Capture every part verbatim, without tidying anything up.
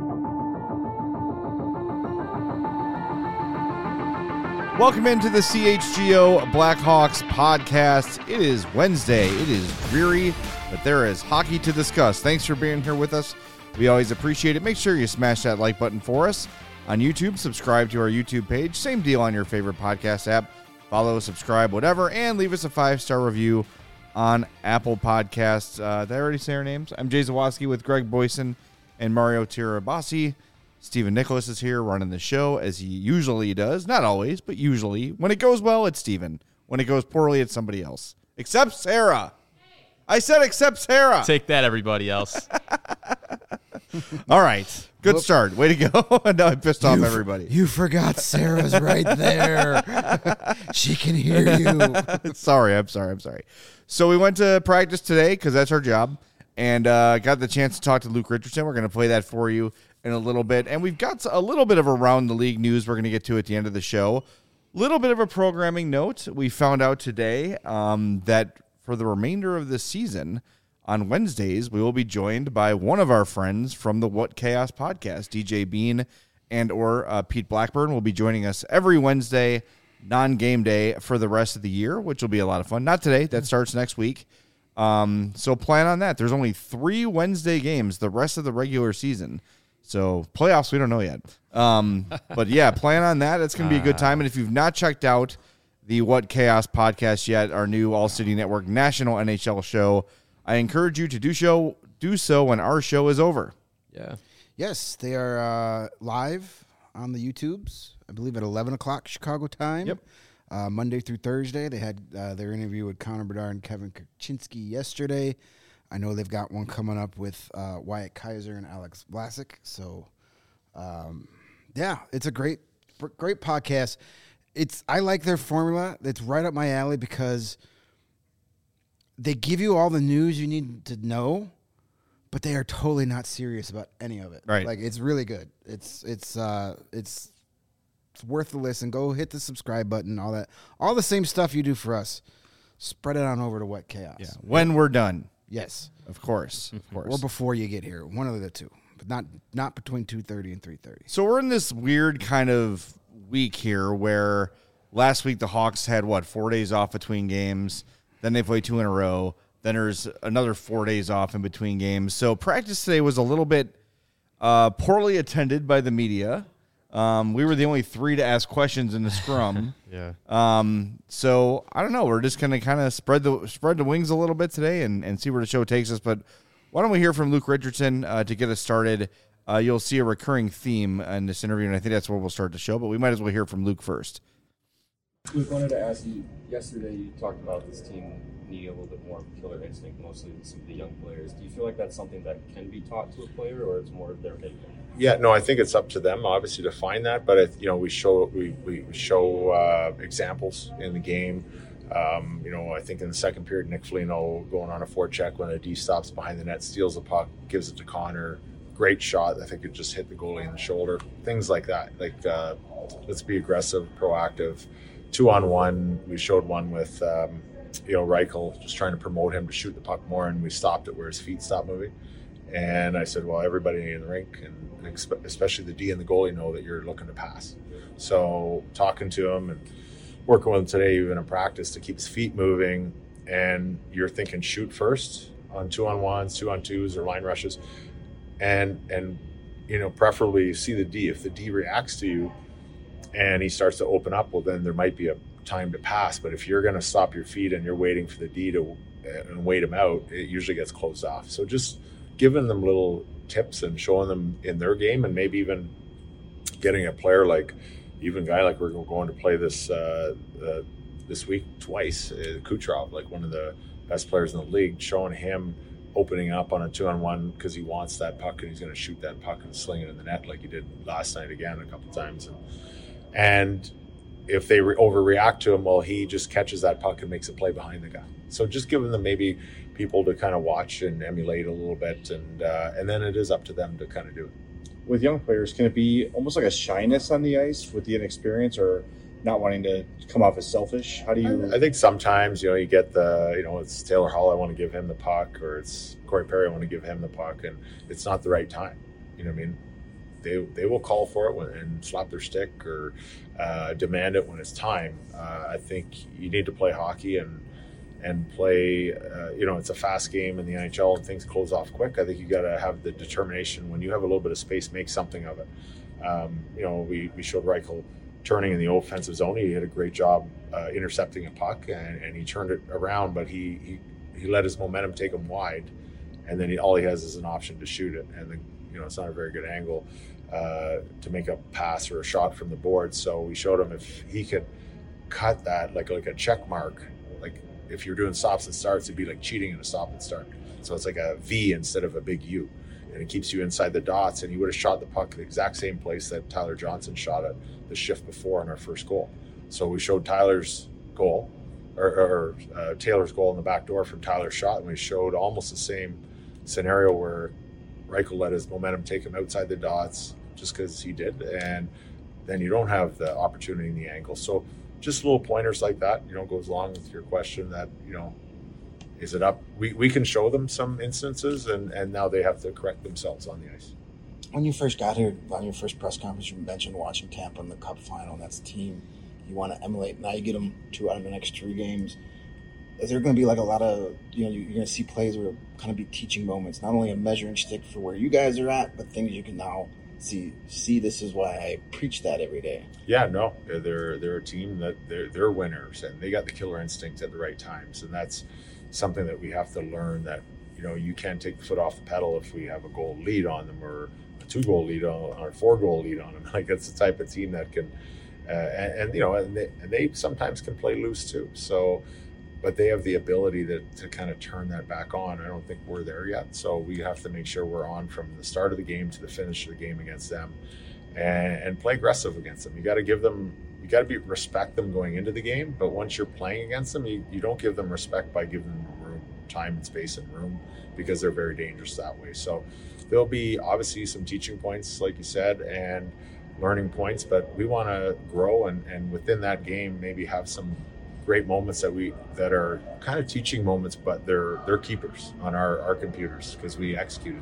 Welcome into the C H G O Blackhawks podcast. It is Wednesday. It is dreary, but there is hockey to discuss. Thanks for being here with us. We always appreciate it. Make sure you smash that like button for us on YouTube. Subscribe to our YouTube page. Same deal on your favorite podcast app. Follow, subscribe, whatever, and leave us a five-star review on Apple Podcasts. Uh, did I already say our names? I'm Jay Zawoski with Greg Boyson and Mario Tirabassi. Stephen Nicholas is here running the show as he usually does. Not always, but usually. When it goes well, it's Stephen. When it goes poorly, it's somebody else. Except Sarah. I said except Sarah. Take that, everybody else. All right. Good Whoop. start. Way to go. No, I pissed off you everybody. F- you forgot Sarah's right there. She can hear you. Sorry. I'm sorry. I'm sorry. So we went to practice today because that's our job, and uh, got the chance to talk to Luke Richardson. We're going to play that for you in a little bit. And we've got a little bit of around the league news we're going to get to at the end of the show. Little bit of a programming note. We found out today um, that for the remainder of this season, on Wednesdays, we will be joined by one of our friends from the What Chaos podcast. D J Bean and or uh, Pete Blackburn will be joining us every Wednesday, non-game day, for the rest of the year, which will be a lot of fun. Not today. That starts next week. Um, so plan on that. There's only three Wednesday games the rest of the regular season. So playoffs, we don't know yet. Um, but, yeah, plan on that. It's going to be a good time. And if you've not checked out the What Chaos podcast yet, our new All-City Network national N H L show, I encourage you to do show do so when our show is over. Yeah. Yes, they are uh, live on the YouTubes, I believe at eleven o'clock Chicago time. Yep. Uh, Monday through Thursday. They had uh, their interview with Connor Bedard and Kevin Kaczynski yesterday. I know they've got one coming up with uh, Wyatt Kaiser and Alex Vlasic. So, um, yeah, it's a great, great podcast. It's I like their formula. It's right up my alley because they give you all the news you need to know, but they are totally not serious about any of it. Right. Like, it's really good. It's it's uh it's it's worth the listen. Go hit the subscribe button, all that. All the same stuff you do for us. Spread it on over to What Chaos. Yeah. When we're done. Yes. Of course. Of course. Or before you get here. One of the two. But not not between two thirty and three thirty. So we're in this weird kind of week here where last week the Hawks had, what, four days off between games. Then they play two in a row. Then there's another four days off in between games. So practice today was a little bit uh, poorly attended by the media. Um, we were the only three to ask questions in the scrum. yeah. Um, so I don't know. We're just going to kind of spread the spread the wings a little bit today and, and see where the show takes us. But why don't we hear from Luke Richardson uh, to get us started? Uh, you'll see a recurring theme in this interview, and I think that's where we'll start the show. But we might as well hear from Luke first. Luke, wanted to ask you, yesterday you talked about this team needing a little bit more killer instinct, mostly with some of the young players. Do you feel like that's something that can be taught to a player, or it's more of their making? Yeah, no, I think it's up to them, obviously, to find that. But, it, you know, we show we, we show uh, examples in the game. Um, you know, I think in the second period, Nick Foligno going on a forecheck when a D stops behind the net, steals the puck, gives it to Connor. Great shot. I think it just hit the goalie in the shoulder. Things like that. Like, uh, let's be aggressive, proactive. Two on one, we showed one with, um, you know, Reichel, just trying to promote him to shoot the puck more, and we stopped it where his feet stopped moving. And I said, well, everybody in the rink, and especially the D and the goalie, know that you're looking to pass. So talking to him and working with him today, even in practice, to keep his feet moving, and you're thinking shoot first on two on ones, two on twos, or line rushes, and and you know, preferably see the D. If the D reacts to you and he starts to open up, well, then there might be a time to pass. But if you're going to stop your feet and you're waiting for the D to and wait him out, it usually gets closed off. So just giving them little tips and showing them in their game, and maybe even getting a player like, even a guy like we're going to play this uh, uh, this week twice, uh, Kucherov, like one of the best players in the league, showing him opening up on a two-on-one because he wants that puck and he's going to shoot that puck and sling it in the net like he did last night again a couple times. And, and if they re- overreact to him, well, he just catches that puck and makes a play behind the guy. So just giving them maybe people to kind of watch and emulate a little bit, and uh, and then it is up to them to kind of do it. With young players, can it be almost like a shyness on the ice with the inexperience, or not wanting to come off as selfish? How do you... I, I think sometimes, you know, you get the, you know, it's Taylor Hall, I want to give him the puck, or it's Corey Perry, I want to give him the puck, and it's not the right time. You know what I mean? they they will call for it when, and slap their stick or uh, demand it when it's time. Uh, I think you need to play hockey and and play. Uh, you know, it's a fast game in the N H L and things close off quick. I think you got to have the determination when you have a little bit of space, make something of it. Um, you know, we we showed Reichel turning in the offensive zone. He did a great job uh, intercepting a puck and, and he turned it around, but he he he let his momentum take him wide. And then he, all he has is an option to shoot it, and the, you know it's not a very good angle uh, to make a pass or a shot from the board. So we showed him if he could cut that like like a check mark, like if you're doing stops and starts, it'd be like cheating in a stop and start. So it's like a V instead of a big U, and it keeps you inside the dots. And he would have shot the puck the exact same place that Tyler Johnson shot it the shift before on our first goal. So we showed Tyler's goal, or, or uh, Taylor's goal in the back door from Tyler's shot, and we showed almost the same scenario where Reichel let his momentum take him outside the dots just because he did, and then you don't have the opportunity in the angle. So just little pointers like that, you know, goes along with your question that, you know, is it up? We, we can show them some instances, and, and now they have to correct themselves on the ice. When you first got here, on your first press conference, you mentioned watching Tampa in the Cup final, and that's a team you want to emulate. Now you get them two out of the next three games. Is there going to be like a lot of, you know, you're going to see plays where kind of be teaching moments, not only a measuring stick for where you guys are at, but things you can now see, see this is why I preach that every day. Yeah, no, they're, they're a team that they're, they're winners, and they got the killer instinct at the right times. And that's something that we have to learn, that, you know, you can't take the foot off the pedal if we have a goal lead on them or a two goal lead on or a four goal lead on them. Like, it's the type of team that can, uh, and, and, you know, and they, and they sometimes can play loose too. So, but they have the ability to, to kind of turn that back on. I don't think we're there yet. So we have to make sure we're on from the start of the game to the finish of the game against them, and, and play aggressive against them. You got to give them, you got to be respect them going into the game. But once you're playing against them, you, you don't give them respect by giving them room, time and space and room, because they're very dangerous that way. So there'll be obviously some teaching points, like you said, and learning points, but we want to grow and, and within that game maybe have some great moments that we that are kind of teaching moments, but they're they're keepers on our, our computers because we executed.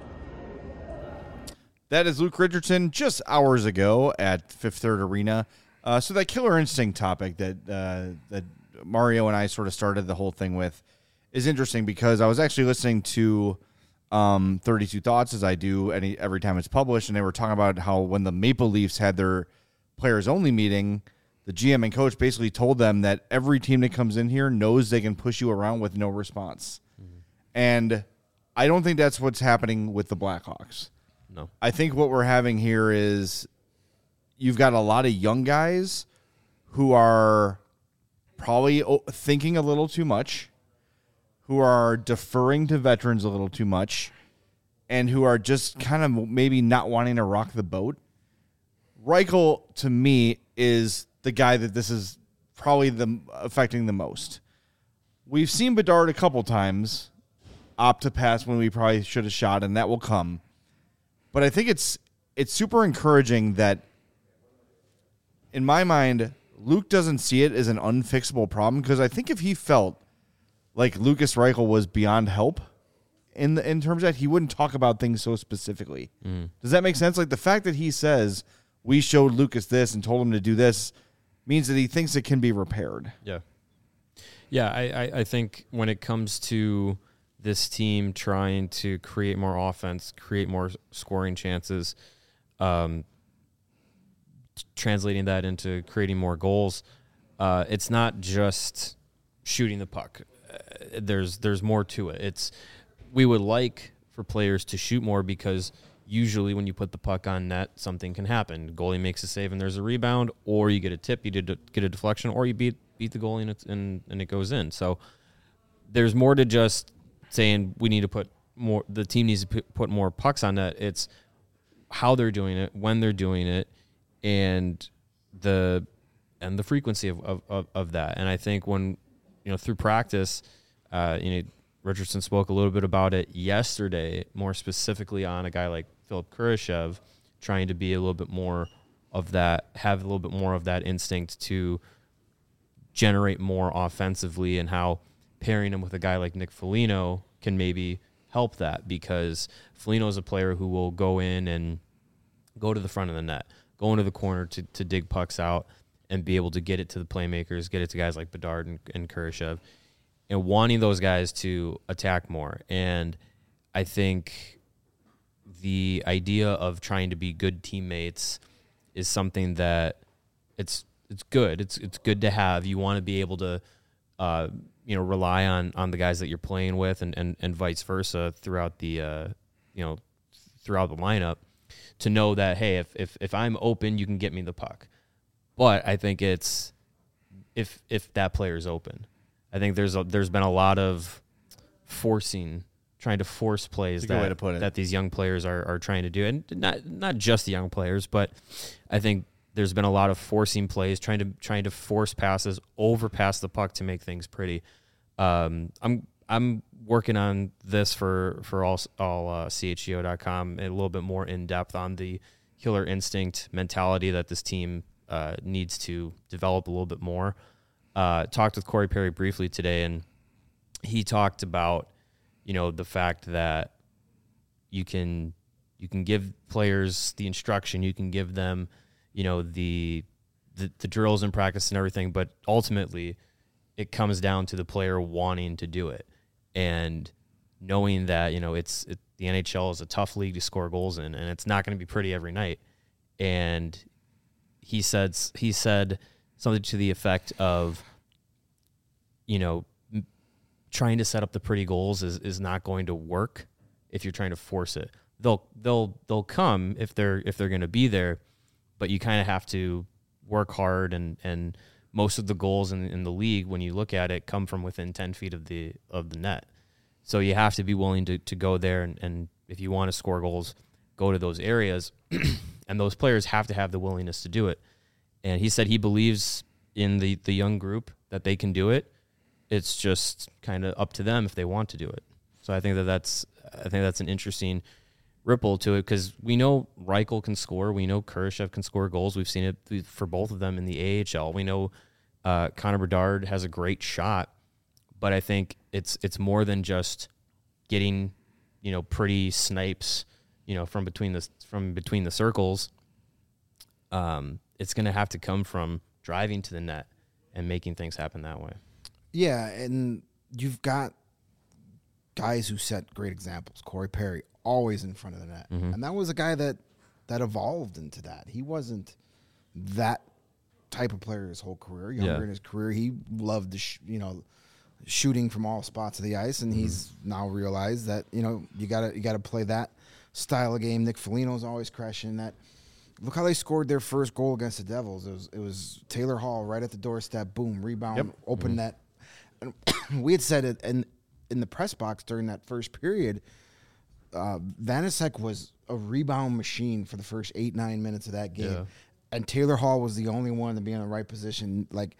That is Luke Richardson just hours ago at Fifth Third Arena. Uh, so that killer instinct topic that uh, that Mario and I sort of started the whole thing with is interesting, because I was actually listening to um, thirty-two Thoughts, as I do any every time it's published, and they were talking about how when the Maple Leafs had their players only meeting, the G M and coach basically told them that every team that comes in here knows they can push you around with no response. Mm-hmm. And I don't think that's what's happening with the Blackhawks. No. I think what we're having here is you've got a lot of young guys who are probably thinking a little too much, who are deferring to veterans a little too much, and who are just kind of maybe not wanting to rock the boat. Reichel, to me, is the guy that this is probably the affecting the most. We've seen Bedard a couple times opt to pass when we probably should have shot, and that will come. But I think it's it's super encouraging that, in my mind, Luke doesn't see it as an unfixable problem, because I think if he felt like Lucas Reichel was beyond help in the, in terms of that, he wouldn't talk about things so specifically. Mm. Does that make sense? Like the fact that he says, we showed Lucas this and told him to do this, means that he thinks it can be repaired. Yeah. Yeah, I, I, I think when it comes to this team trying to create more offense, create more scoring chances, um, translating that into creating more goals, uh, it's not just shooting the puck. Uh, there's there's more to it. It's we would like for players to shoot more, because usually when you put the puck on net, something can happen. Goalie makes a save and there's a rebound, or you get a tip, you did get a deflection, or you beat beat the goalie and, it's, and, and it goes in. So there's more to just saying we need to put more, the team needs to put more pucks on net. It's how they're doing it, when they're doing it, and the and the frequency of, of, of, of that. And I think when, you know, through practice, uh, you know, Richardson spoke a little bit about it yesterday, more specifically on a guy like Philip Kurashev, trying to be a little bit more of that, have a little bit more of that instinct to generate more offensively, and how pairing him with a guy like Nick Foligno can maybe help that, because Foligno is a player who will go in and go to the front of the net, go into the corner to, to dig pucks out and be able to get it to the playmakers, get it to guys like Bedard and, and Kurashev, and wanting those guys to attack more. And I think the idea of trying to be good teammates is something that it's it's good. It's it's good to have. You want to be able to uh, you know, rely on on the guys that you're playing with, and, and, and vice versa throughout the uh, you know, throughout the lineup, to know that, hey, if, if if I'm open, you can get me the puck. But I think it's if if that player's open. I think there's a, there's been a lot of forcing, trying to force plays That's a good way to that, put it. that these young players are, are trying to do. And not not just the young players, but I think there's been a lot of forcing plays, trying to trying to force passes, overpass the puck to make things pretty. Um, I'm I'm working on this for for all all uh, C H G O dot com, a little bit more in depth on the killer instinct mentality that this team uh, needs to develop a little bit more. Uh, talked with Corey Perry briefly today, and he talked about, you know, the fact that you can you can give players the instruction, you can give them, you know, the the, the drills and practice and everything, but ultimately it comes down to the player wanting to do it and knowing that, you know, it's it, the N H L is a tough league to score goals in, and it's not going to be pretty every night. And he said he said something to the effect of, you know, m- trying to set up the pretty goals is, is not going to work if you're trying to force it. They'll they'll they'll come if they're if they're going to be there, but you kind of have to work hard, and, and most of the goals in, in the league, when you look at it, come from within ten feet of the of the net. So you have to be willing to, to go there, and, and if you want to score goals, go to those areas, and those players have to have the willingness to do it. And he said he believes in the, the young group that they can do it. It's just kind of up to them if they want to do it. So I think that that's I think that's an interesting ripple to it, because we know Reichel can score. We know Kurashev can score goals. We've seen it for both of them in the A H L. We know uh, Connor Bedard has a great shot, but I think it's it's more than just getting, you know, pretty snipes, you know, from between the from between the circles. Um, it's going to have to come from driving to the net and making things happen that way. Yeah, and you've got guys who set great examples. Corey Perry, always in front of the net. Mm-hmm. And that was a guy that, that evolved into that. He wasn't that type of player his whole career. Younger Yeah. in his career, he loved, the sh- you know, shooting from all spots of the ice, and Mm-hmm. he's now realized that, you know, you gotta you gotta play that style of game. Nick Foligno's always crashing that. Look how they scored their first goal against the Devils. It was it was Taylor Hall right at the doorstep, boom, rebound, Yep. open net. And we had said it in in the press box during that first period. Uh, Vanasek was a rebound machine for the first eight nine minutes of that game, Yeah. and Taylor Hall was the only one to be in the right position. Like,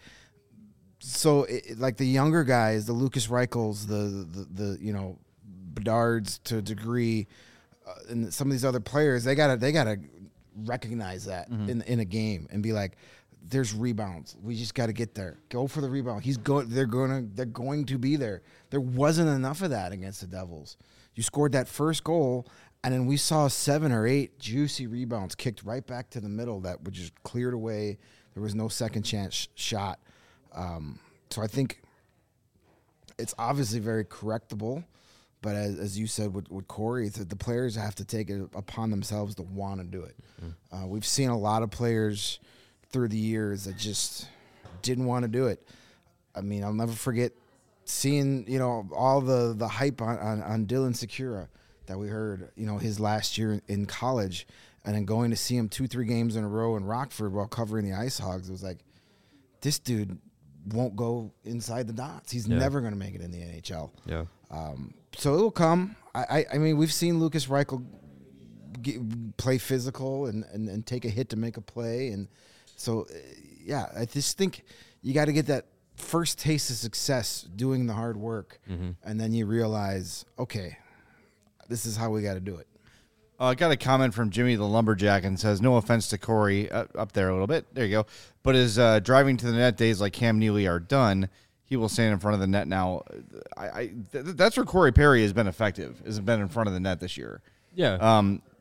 so it, like the younger guys, the Lucas Reichels, the the, the you know Bedards to a degree, uh, and some of these other players, they gotta they gotta recognize that Mm-hmm. in in a game and be like, there's rebounds. We just got to get there. Go for the rebound. He's going. They're going to. They're going to be there. There wasn't enough of that against the Devils. You scored that first goal, and then we saw seven or eight juicy rebounds kicked right back to the middle that were just cleared away. There was no second chance sh- shot. Um, so I think it's obviously very correctable. But as, as you said with, with Corey, the, the players have to take it upon themselves to want to do it. Mm-hmm. Uh, we've seen a lot of players through the years that just didn't want to do it. I mean, I'll never forget seeing, you know, all the, the hype on, on, on Dylan Secura that we heard, you know, his last year in college, and then going to see him two, three games in a row in Rockford while covering the Ice Hogs. It was like, this dude won't go inside the dots. He's Yeah. never going to make it in the N H L. Yeah. Um, so it'll come. I, I, I mean, we've seen Lucas Reichel get, play physical and, and, and take a hit to make a play. And so, uh, yeah, I just think you got to get that first taste of success doing the hard work. Mm-hmm. And then you realize, okay, this is how we got to do it. Uh, I got a comment from Jimmy the Lumberjack and says, no offense to Corey, uh, up there a little bit. There you go. But his uh, driving to the net days like Cam Neely are done. He will stand in front of the net now. I, I th- that's where Corey Perry has been effective, has been in front of the net this year. Yeah. Um,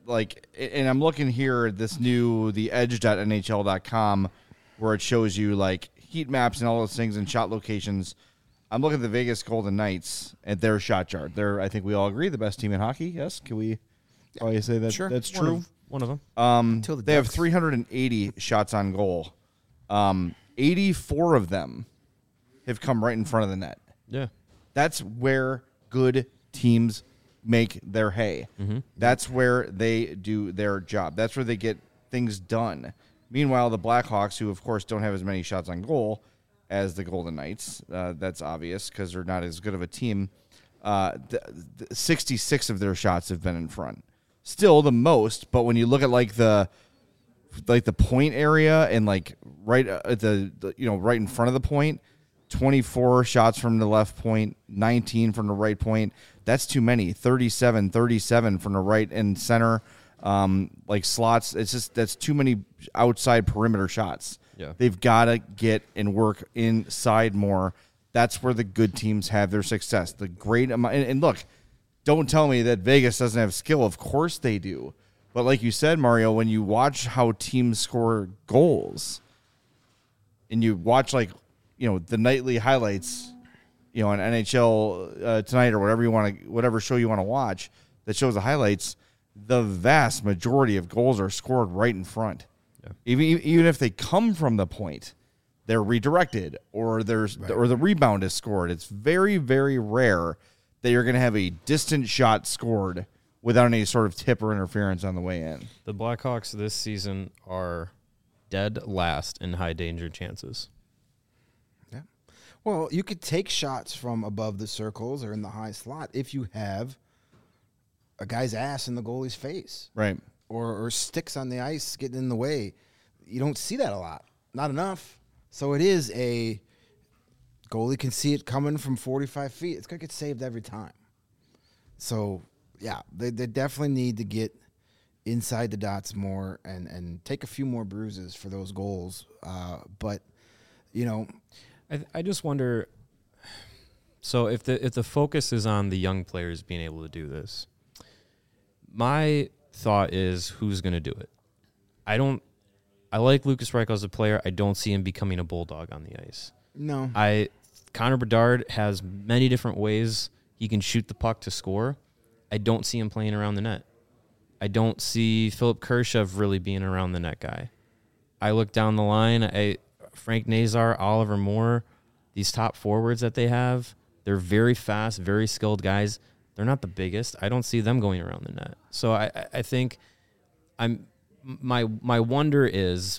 like, and I'm looking here at this new the edge dot N H L dot com where it shows you like heat maps and all those things and shot locations. I'm looking at the Vegas Golden Knights at their shot chart. They're, I think we all agree, the best team in hockey. Yes, can we? Probably say that Sure. that's One true. of, one of them. Um, Till the they have Ducks. three hundred eighty shots on goal. Um, eighty-four of them have come right in front of the net. Yeah. That's where good teams make their hay. Mm-hmm. That's where they do their job. That's where they get things done. Meanwhile, the Blackhawks, who of course don't have as many shots on goal as the Golden Knights, uh, that's obvious because they're not as good of a team. Uh, the, the sixty-six of their shots have been in front. Still the most, but when you look at like the like the point area and like right at the, the you know right in front of the point, twenty-four shots from the left point, nineteen from the right point. That's too many. thirty-seven, thirty-seven from the right and center, um, like slots. It's just that's too many outside perimeter shots. Yeah. They've got to get and work inside more. That's where the good teams have their success. The great amount, and, and look, don't tell me that Vegas doesn't have skill. Of course they do. But like you said, Mario, when you watch how teams score goals, and you watch like you know the nightly highlights, you know, on N H L uh, Tonight or whatever you want to, whatever show you want to watch that shows the highlights, the vast majority of goals are scored right in front. Yeah. Even even if they come from the point, they're redirected or there's Right. or the rebound is scored. It's very very rare that you're going to have a distant shot scored without any sort of tip or interference on the way in. The Blackhawks this season are dead last in high danger chances. Yeah. Well, you could take shots from above the circles or in the high slot if you have a guy's ass in the goalie's face. Right. Or, or sticks on the ice getting in the way. You don't see that a lot. Not enough. So it is a goalie can see it coming from forty-five feet. It's going to get saved every time. So, yeah, they, they definitely need to get inside the dots more and, and take a few more bruises for those goals. Uh, but, you know, I I just wonder. So if the if the focus is on the young players being able to do this, my thought is who's going to do it. I don't. I like Lucas Reichel as a player. I don't see him becoming a bulldog on the ice. no. I Connor Bedard has many different ways he can shoot the puck to score. I don't see him playing around the net. I don't see Philip Kershev really being around the net guy. I look down the line. I Frank Nazar, Oliver Moore, these top forwards that they have, they're very fast, very skilled guys. They're not the biggest. I don't see them going around the net. So I, I think I'm my my wonder is,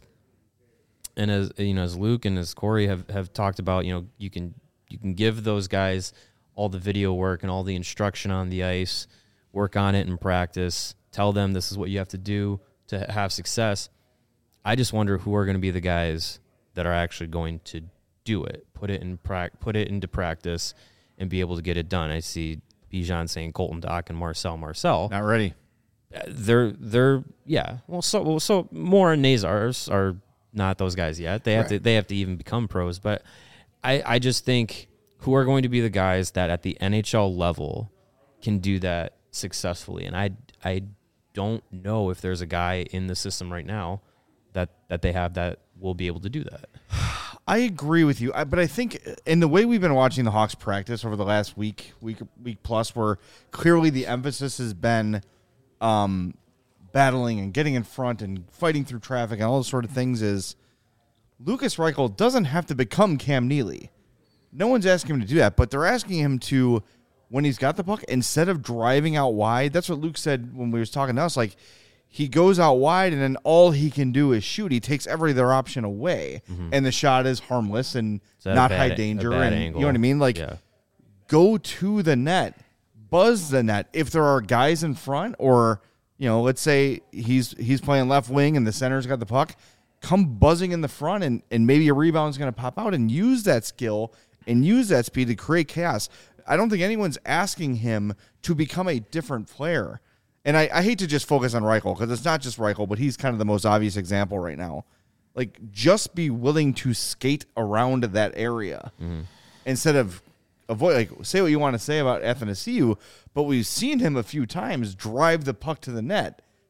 and as you know, as Luke and as Corey have, have talked about, you know, you can you can give those guys all the video work and all the instruction on the ice, work on it in practice, tell them this is what you have to do to have success. I just wonder who are going to be the guys that are actually going to do it, put it in pra- put it into practice, and be able to get it done. I see Bijan saying Colton Dock and Marcel Marcel. Not ready. They're they're yeah. Well, so well, so Moore and Nazars are not those guys yet. They have Right. to they have to even become pros. But I I just think who are going to be the guys that at the N H L level can do that successfully, and I I don't know if there's a guy in the system right now that that they have that will be able to do that. I agree with you, I, but I think in the way we've been watching the Hawks practice over the last week, week, week plus, where clearly the emphasis has been um, battling and getting in front and fighting through traffic and all those sort of things, is Lucas Reichel doesn't have to become Cam Neely. No one's asking him to do that, but they're asking him to, when he's got the puck, instead of driving out wide, that's what Luke said when we was talking to us, like, he goes out wide, and then all he can do is shoot. He takes every other option away, and the shot is harmless and Is that a not bad- high a danger. bad And angle? you know what I mean? Like, Yeah. go to the net, buzz the net. If there are guys in front, or you know, let's say he's he's playing left wing and the center's got the puck, come buzzing in the front, and and maybe a rebound's going to pop out, and use that skill and use that speed to create chaos. I don't think anyone's asking him to become a different player. And I, I hate to just focus on Reichel, because it's not just Reichel, but he's kind of the most obvious example right now. Like, just be willing to skate around that area instead of avoid. Like, say what you want to say about Athanasiou, but we've seen him a few times drive the puck to the net.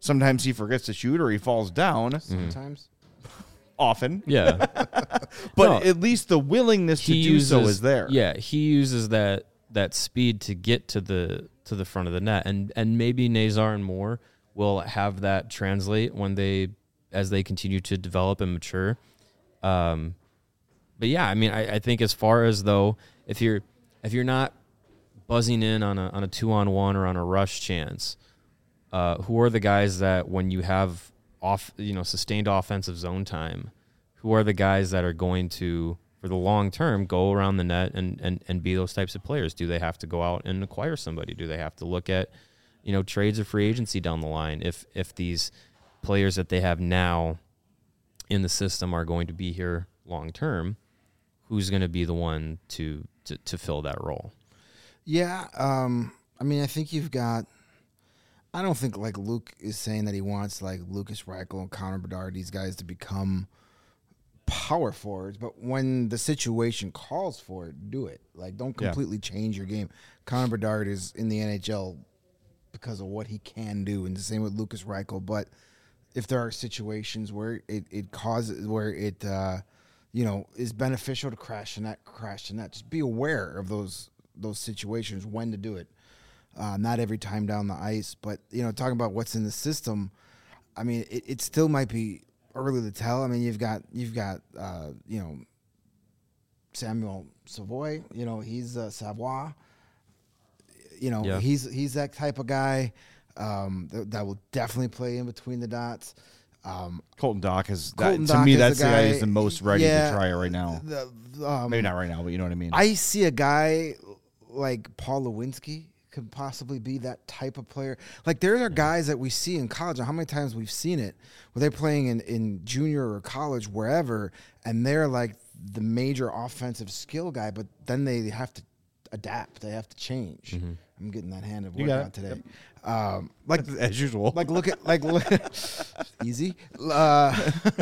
Sometimes he forgets to shoot or he falls down. Sometimes. Often. Yeah. But No. at least the willingness to he do uses, so is there. Yeah, he uses that that speed to get to the to the front of the net, and and maybe Nazar and Moore will have that translate when they as they continue to develop and mature. Um, but yeah, I mean, I, I think as far as though if you're if you're not buzzing in on a on a two on one or on a rush chance, uh, who are the guys that when you have off you know sustained offensive zone time, who are the guys that are going to, for the long term, go around the net and, and, and be those types of players? Do they have to go out and acquire somebody? Do they have to look at, you know, trades or free agency down the line? If if these players that they have now in the system are going to be here long term, who's going to be the one to, to, to fill that role? Yeah, um, I mean, I think you've got. I don't think like Luke is saying that he wants like Lucas Reichel and Connor Bedard, these guys, to become power forwards, but when the situation calls for it, do it. Like, don't Yeah. completely change your game. Connor Bedard is in the N H L because of what he can do, and the same with Lucas Reichel. But if there are situations where it, it causes, where it, uh, you know, is beneficial to crash the net, crash the net, just be aware of those those situations, when to do it. Uh, not every time down the ice, but, you know, talking about what's in the system, I mean, it, it still might be early to tell. I mean, you've got you've got uh, you know, Samuel Savoy. You know, he's uh, Savoy. You know, Yeah. he's he's that type of guy um, that, that will definitely play in between the dots. Um, Colton Dock is that, Colton to Dock me is that's the the guy guy- who's the most ready yeah, to try it right now. the, um, Maybe not right now, but you know what I mean. I see a guy like Paul Lewinsky could possibly be that type of player. Like, there are guys that we see in college, and how many times we've seen it, where they're playing in, in junior or college, wherever, and they're like the major offensive skill guy, but then they have to adapt. They have to change. Mm-hmm. I'm getting that hand of You got workout it. today. Um, like, as usual. like look at like look, easy. Uh,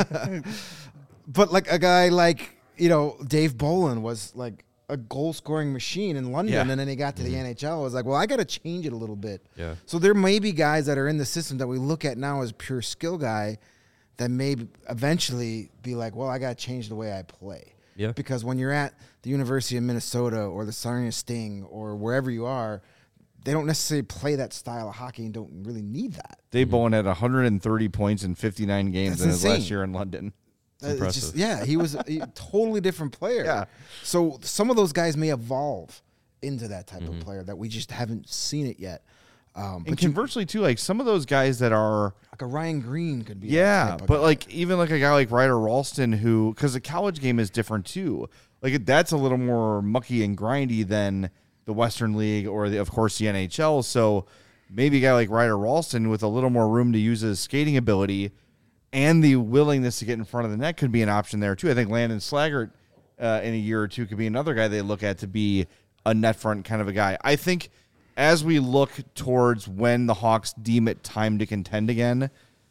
but like a guy like, you know, Dave Bolin was like a goal scoring machine in London, Yeah. and then he got to the N H L. I was like, well, I got to change it a little bit. Yeah. So there may be guys that are in the system that we look at now as pure skill guy that may eventually be like, well, I got to change the way I play. Yeah. Because when you're at the University of Minnesota or the Sarnia Sting or wherever you are, they don't necessarily play that style of hockey and don't really need that. Dave Bowen had one hundred thirty points in fifty-nine games That's in his insane. last year in London. Uh, it's impressive. just- yeah, he was a, a totally different player. Yeah. So some of those guys may evolve into that type Mm-hmm. of player that we just haven't seen it yet. Um, And but you, conversely, too, like some of those guys that are, like a Ryan Green could be. that yeah, type of but guy. like even like a guy like Ryder Ralston, who, because the college game is different too. Like that's a little more mucky and grindy than the Western League or the, of course, the N H L. So maybe a guy like Ryder Ralston with a little more room to use his skating ability and the willingness to get in front of the net could be an option there too. I think Landon Slaggert uh, in a year or two could be another guy they look at to be a net front kind of a guy. I think as we look towards when the Hawks deem it time to contend again,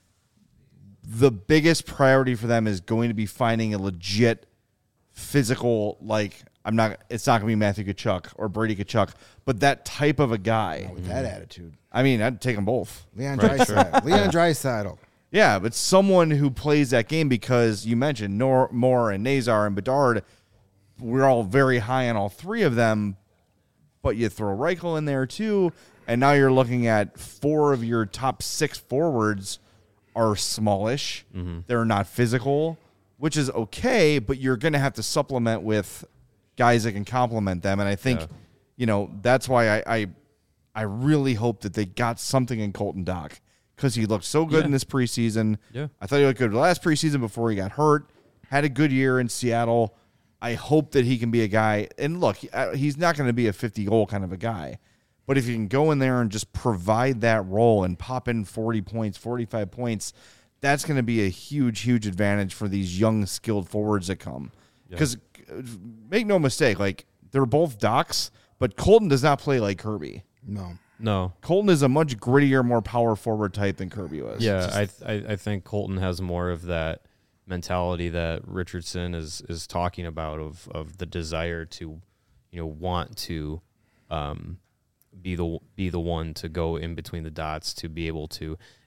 the biggest priority for them is going to be finding a legit physical, like, I'm not, it's not going to be Matthew Tkachuk or Brady Tkachuk, but that type of a guy. with that attitude, I mean, I'd take them both. Leon Right, Draisaitl. Leon Draisaitl. Yeah, but someone who plays that game, because you mentioned Nor- Moore and Nazar and Bedard, we're all very high on all three of them, but you throw Reichel in there too, and now you're looking at four of your top six forwards are smallish. Mm-hmm. They're not physical, which is okay, but you're going to have to supplement with guys that can complement them. And I think, Yeah. you know, that's why I, I I really hope that they got something in Colton Dock, because he looked so good Yeah. in this preseason. Yeah. I thought he looked good last preseason before he got hurt. Had a good year in Seattle. I hope that he can be a guy. And look, he- uh, he's not going to be a fifty-goal kind of a guy. But if you can go in there and just provide that role and pop in forty points, forty-five points, that's going to be a huge, huge advantage for these young, skilled forwards that come. Because make no mistake, like, they're both Docks, but Colton does not play like Kirby. No. No. Colton is a much grittier, more power forward type than Kirby was. Yeah, I, th- I I think Colton has more of that mentality that Richardson is is talking about of of the desire to, you know, want to um, be the be the one to go in between the dots, to be able to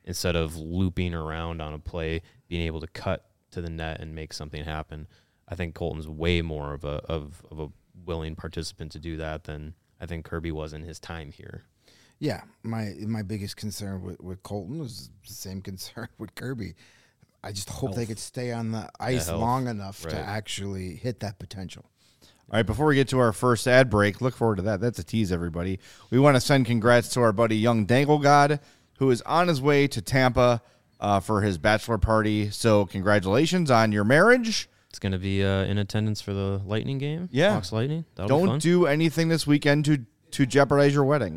instead of looping around on a play, being able to cut to the net and make something happen. I think Colton's way more of a of, of a willing participant to do that than I think Kirby was in his time here. Yeah, my my biggest concern with, with Colton was the same concern with Kirby. I just hope Health. they could stay on the ice health. long enough to Right. actually hit that potential. All right, before we get to our first ad break, look forward to that. That's a tease, everybody. We want to send congrats to our buddy Young Dangle God, who is on his way to Tampa uh, for his bachelor party. So congratulations on your marriage. It's going to be uh, in attendance for the Lightning game. Yeah. Hawks Lightning. That'll be Don't fun. do anything this weekend to, to jeopardize your wedding.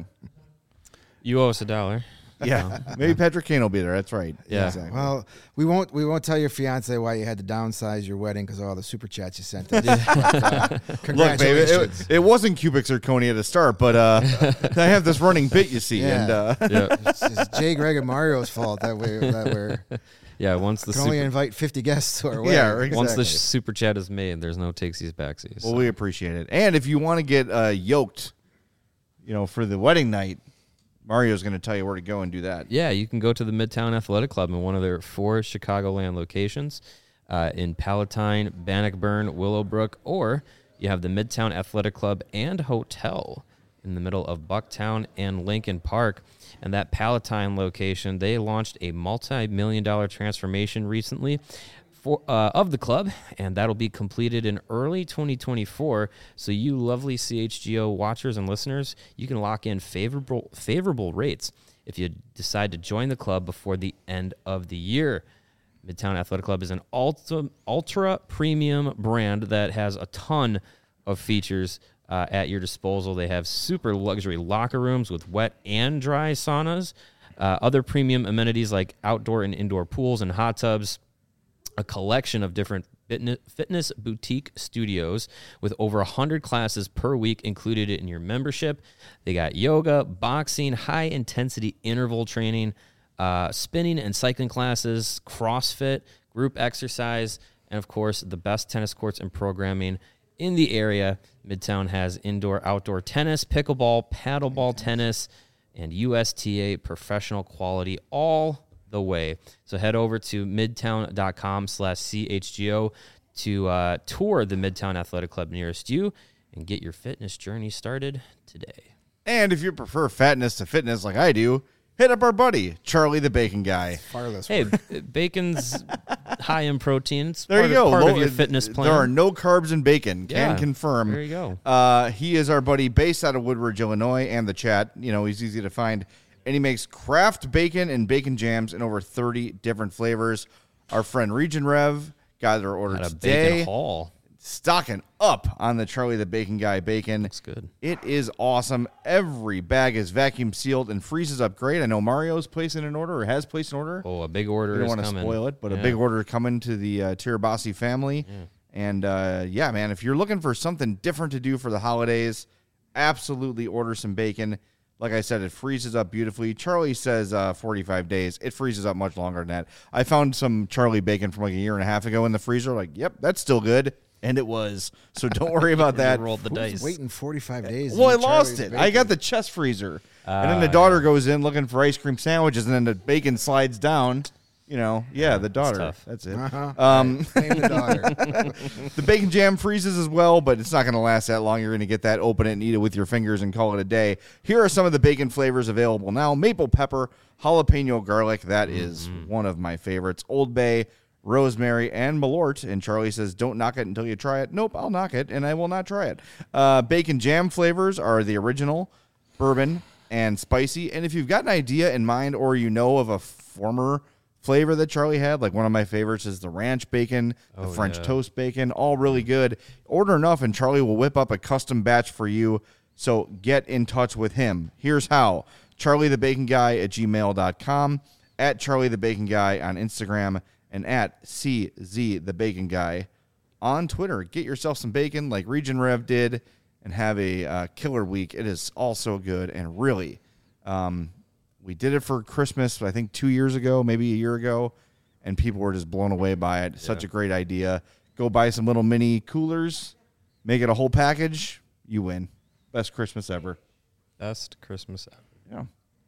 You owe us a dollar. Yeah, maybe Patrick Kane will be there. That's right. Yeah. Exactly. Well, we won't we won't tell your fiance why you had to downsize your wedding because of all the super chats you sent us. But, uh, Look, baby, congratulations. it, it wasn't cubic zirconia to start, but uh, I have this running bit, you see, Yeah. and uh, Yeah. It's, it's Jay, Greg, and Mario's fault that we that we're Yeah. Once the can only super, invite fifty guests to our wedding. yeah, exactly. once the super chat is made, there's no takesies backsies. Well, we appreciate it. And if you want to get uh, yoked, you know, for the wedding night, Mario's going to tell you where to go and do that. Yeah, you can go to the Midtown Athletic Club in one of their four Chicagoland locations uh, in Palatine, Bannockburn, Willowbrook, or you have the Midtown Athletic Club and Hotel in the middle of Bucktown and Lincoln Park. And that Palatine location, they launched a multi-million dollar transformation recently for uh, of the club, and that'll be completed in early twenty twenty-four. So you lovely C H G O watchers and listeners, you can lock in favorable favorable rates if you decide to join the club before the end of the year. Midtown Athletic Club is an ultra, ultra premium brand that has a ton of features uh, at your disposal. They have super luxury locker rooms with wet and dry saunas, uh, other premium amenities like outdoor and indoor pools and hot tubs, a collection of different fitness, fitness boutique studios with over one hundred classes per week included in your membership. They got yoga, boxing, high-intensity interval training, uh, spinning and cycling classes, CrossFit, group exercise, and, of course, the best tennis courts and programming in the area. Midtown has indoor-outdoor tennis, pickleball, paddleball tennis, and U S T A professional quality all the way. So head over to midtown.com slash CHGO to uh, tour the Midtown Athletic Club nearest you and get your fitness journey started today. And if you prefer fatness to fitness like I do, hit up our buddy, Charlie the Bacon Guy. Far less Hey, work. bacon's high in protein. It's There part you of, go. part Low- of your fitness plan. There are no carbs in bacon. Can Yeah, confirm. there you go. Uh, he is our buddy based out of Woodbridge, Illinois, and the chat. You know, he's easy to find. And he makes craft bacon and bacon jams in over thirty different flavors. Our friend Region Rev got their order At a today. bacon haul. Stocking up on the Charlie the Bacon Guy bacon. Looks good. It is awesome. Every bag is vacuum sealed and freezes up great. I know Mario's placing an order or has placed an order. Oh, a big order We don't is want to coming. spoil it, but a Yeah. big order coming to the uh, Tirabassi family. And uh, yeah, man, if you're looking for something different to do for the holidays, absolutely order some bacon. Like I said, it freezes up beautifully. Charlie says uh, forty-five days. It freezes up much longer than that. I found some Charlie bacon from like a year and a half ago in the freezer. Like, yep, that's still good. And it was. So don't worry about that. Rolled the Who's dice. waiting forty-five days. to Well, I eat lost Charlie's it. I got bacon? the chest freezer. and then the daughter goes in looking for ice cream sandwiches, and then the bacon slides down. You know, yeah, the daughter. tough. That's it. Uh-huh. Um, Name the daughter. the bacon jam freezes as well, but it's not going to last that long. You're going to get that, open it, and eat it with your fingers and call it a day. Here are some of the bacon flavors available now. Maple pepper, jalapeno garlic. That is one of my favorites. Old Bay, rosemary, and Malort. And Charlie says, don't knock it until you try it. Nope, I'll knock it, and I will not try it. Uh, bacon jam flavors are the original, bourbon, and spicy. And if you've got an idea in mind or you know of a former flavor that Charlie had, like one of my favorites is the ranch bacon, the Oh, French yeah. toast bacon, all really good. Order enough and Charlie will whip up a custom batch for you. So get in touch with him. Here's how. Charlie the Bacon Guy at gmail dot com, at Charlie the Bacon Guy on Instagram, and at C Z the Bacon Guy on Twitter. Get yourself some bacon like Region Rev did and have a uh, killer week. It is all so good, and really, um, we did it for Christmas, I think two years ago, maybe a year ago, and people were just blown away by it. Such a great idea. Go buy some little mini coolers, make it a whole package, you win. Best Christmas ever. Best Christmas ever. Yeah.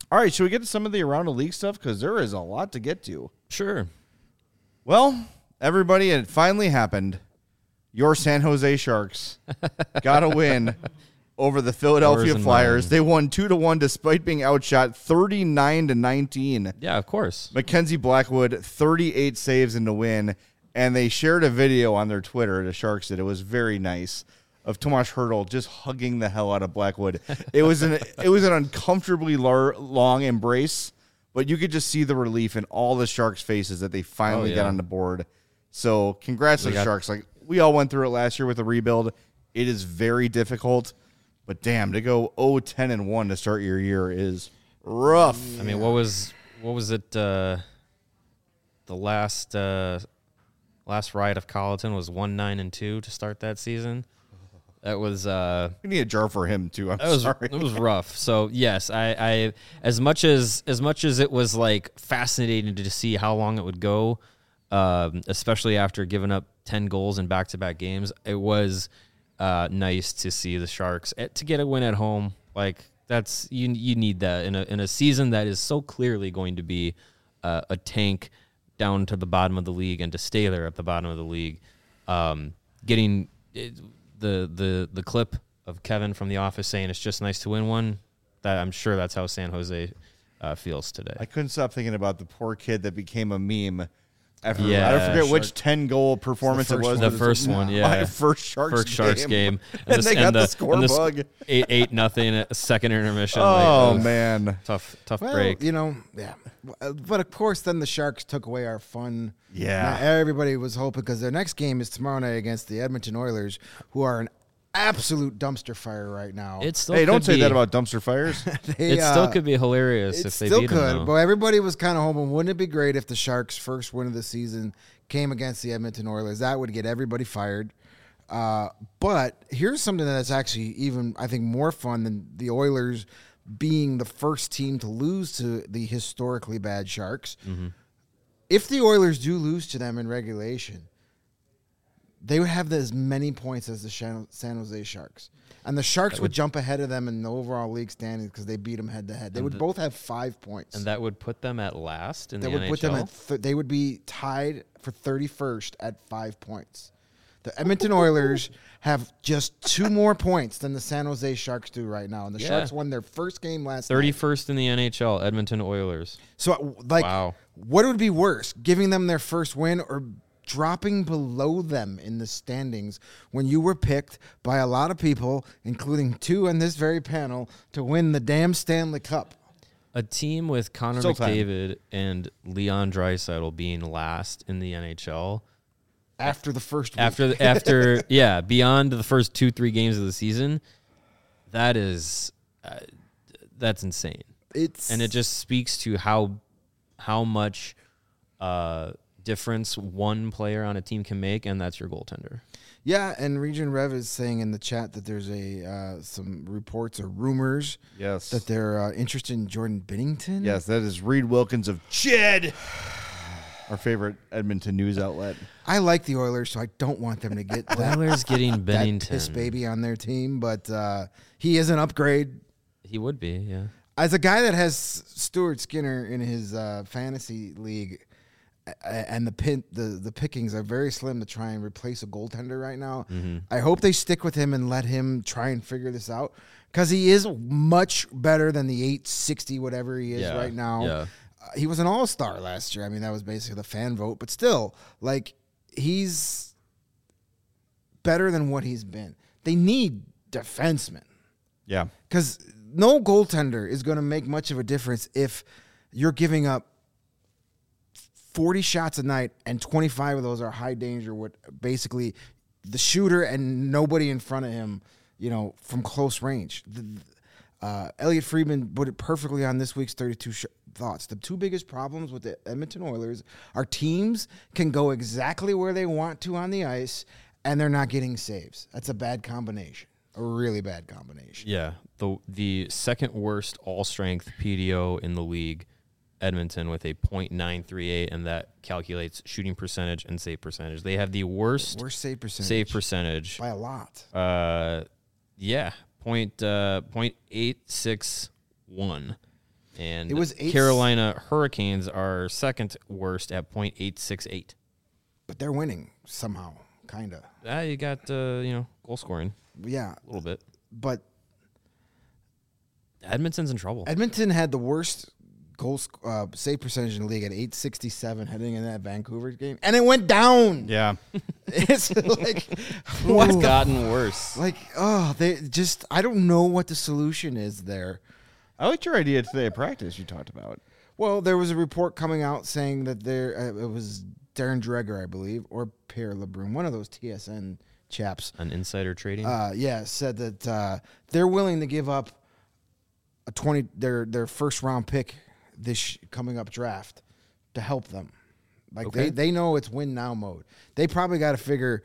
All right, should we get to some of the around the league stuff? Because there is a lot to get to. Sure. Well, everybody, it finally happened. Your San Jose Sharks got a win over the Philadelphia Yours Flyers. and They won two to one despite being outshot thirty-nine to nineteen. Yeah, of course. Mackenzie Blackwood, thirty-eight saves in the win, and they shared a video on their Twitter, the Sharks did. It was very nice, of Tomas Hertl just hugging the hell out of Blackwood. It was an it was an uncomfortably lar- long embrace, but you could just see the relief in all the Sharks' faces that they finally Oh, yeah. got on the board. So congrats to We the got- Sharks. Like, we all went through it last year with the rebuild. It is very difficult, but damn, to go oh ten and one to start your year is rough. I mean, what was what was it? Uh, the last uh, last ride of Colleton was one nine and two to start that season. That was uh, We need a jar for him too. I'm That was sorry. it was rough. So yes, I, I as much as as much as it was like fascinating to see how long it would go, um, especially after giving up ten goals in back to back games. It was uh, nice to see the Sharks eh, to get a win at home. Like that's you you need that in a in a season that is so clearly going to be uh, a tank down to the bottom of the league and to stay there at the bottom of the league. Um, getting it, the the the clip of Kevin from The Office saying it's just nice to win one, that I'm sure that's how San Jose uh, feels today. I couldn't stop thinking about the poor kid that became a meme. After, Yeah. I don't forget Shark- which ten goal performance it first was. the It was first one, yeah. My first Sharks First Sharks game, and, they got the, score and the bug. s- eight eight nothing at second intermission. Oh like, uh, man, tough tough Well, break. you know, yeah. Uh, But of course, then the Sharks took away our fun. Yeah. Now, everybody was hoping because their next game is tomorrow night against the Edmonton Oilers, who are an absolute dumpster fire right now. It still hey, don't could say be, that about dumpster fires. They, It still uh, could be hilarious It if they still beat could, them. but though. everybody was kind of hoping, wouldn't it be great if the Sharks' first win of the season came against the Edmonton Oilers? That would get everybody fired. Uh, but here's something that's actually even, I think, more fun than the Oilers being the first team to lose to the historically bad Sharks. Mm-hmm. If the Oilers do lose to them in regulation, they would have as many points as the Shan- San Jose Sharks. And the Sharks would, would- jump ahead of them in the overall league standings because they beat them head to head. They And would the- both have five points. and that would put them at last in That the would N H L. put them at th- they would be tied for thirty-first at five points. The Edmonton Oilers have just two more points than the San Jose Sharks do right now, and the Yeah. Sharks won their first game last night. thirty-first in the N H L, Edmonton Oilers. So, like, Wow. what would be worse, giving them their first win or dropping below them in the standings when you were picked by a lot of people, including two on this very panel, to win the damn Stanley Cup? A team with Connor Still time. McDavid and Leon Draisaitl being last in the N H L After the first week. after the, after yeah beyond the first two three games of the season, that is uh, that's insane, it's and it just speaks to how how much uh, difference one player on a team can make, and that's your goaltender. Yeah, and Region Rev is saying in the chat that there's a uh, some reports or rumors Yes. that they're uh, interested in Jordan Binnington. Yes, that is Reed Wilkins of Ched, our favorite Edmonton news outlet. I like the Oilers, so I don't want them to get that, Oilers getting that Bennington. piss baby on their team, but uh, he is an upgrade. He would be, yeah. As a guy that has Stuart Skinner in his uh, fantasy league, a- and the pin, the the pickings are very slim to try and replace a goaltender right now. Mm-hmm. I hope they stick with him and let him try and figure this out because he is much better than the eight sixty whatever he is Yeah, right now. yeah. Uh, he was an all-star last year. I mean, that was basically the fan vote, but still, like, he's better than what he's been. They need defensemen. Yeah. Because no goaltender is going to make much of a difference if you're giving up forty shots a night and twenty-five of those are high danger with basically the shooter and nobody in front of him, you know, from close range. The, uh, Elliot Friedman put it perfectly on this week's thirty-two sh- Thoughts. The two biggest problems with the Edmonton Oilers are teams can go exactly where they want to on the ice and they're not getting saves. That's a bad combination. A really bad combination. Yeah, the the second worst all strength P D O in the league, Edmonton with a point nine three eight, and that calculates shooting percentage and save percentage. They have the worst Worst save percentage. save percentage. by a lot. Uh, yeah, point uh point eight six one. And It was eight- Carolina Hurricanes are second worst at point eight six eight. But they're winning somehow, kind of. Ah, you got uh, you know goal scoring Yeah, a little bit. but Edmonton's in trouble. Edmonton had the worst goal sc- uh, save percentage in the league at eight sixty-seven heading in that Vancouver game, and it went down. Yeah. It's like What's what? gotten worse? Like oh, they just I don't know what the solution is there. I liked your idea today at practice you talked about. Well, there was a report coming out saying that there uh, it was Darren Dreger, I believe, or Pierre LeBrun, one of those T S N chaps. On insider trading. Uh, yeah, said that uh, they're willing to give up a twenty their their first round pick this sh- coming up draft to help them. Like Okay. they they know it's win now mode. They probably got to figure.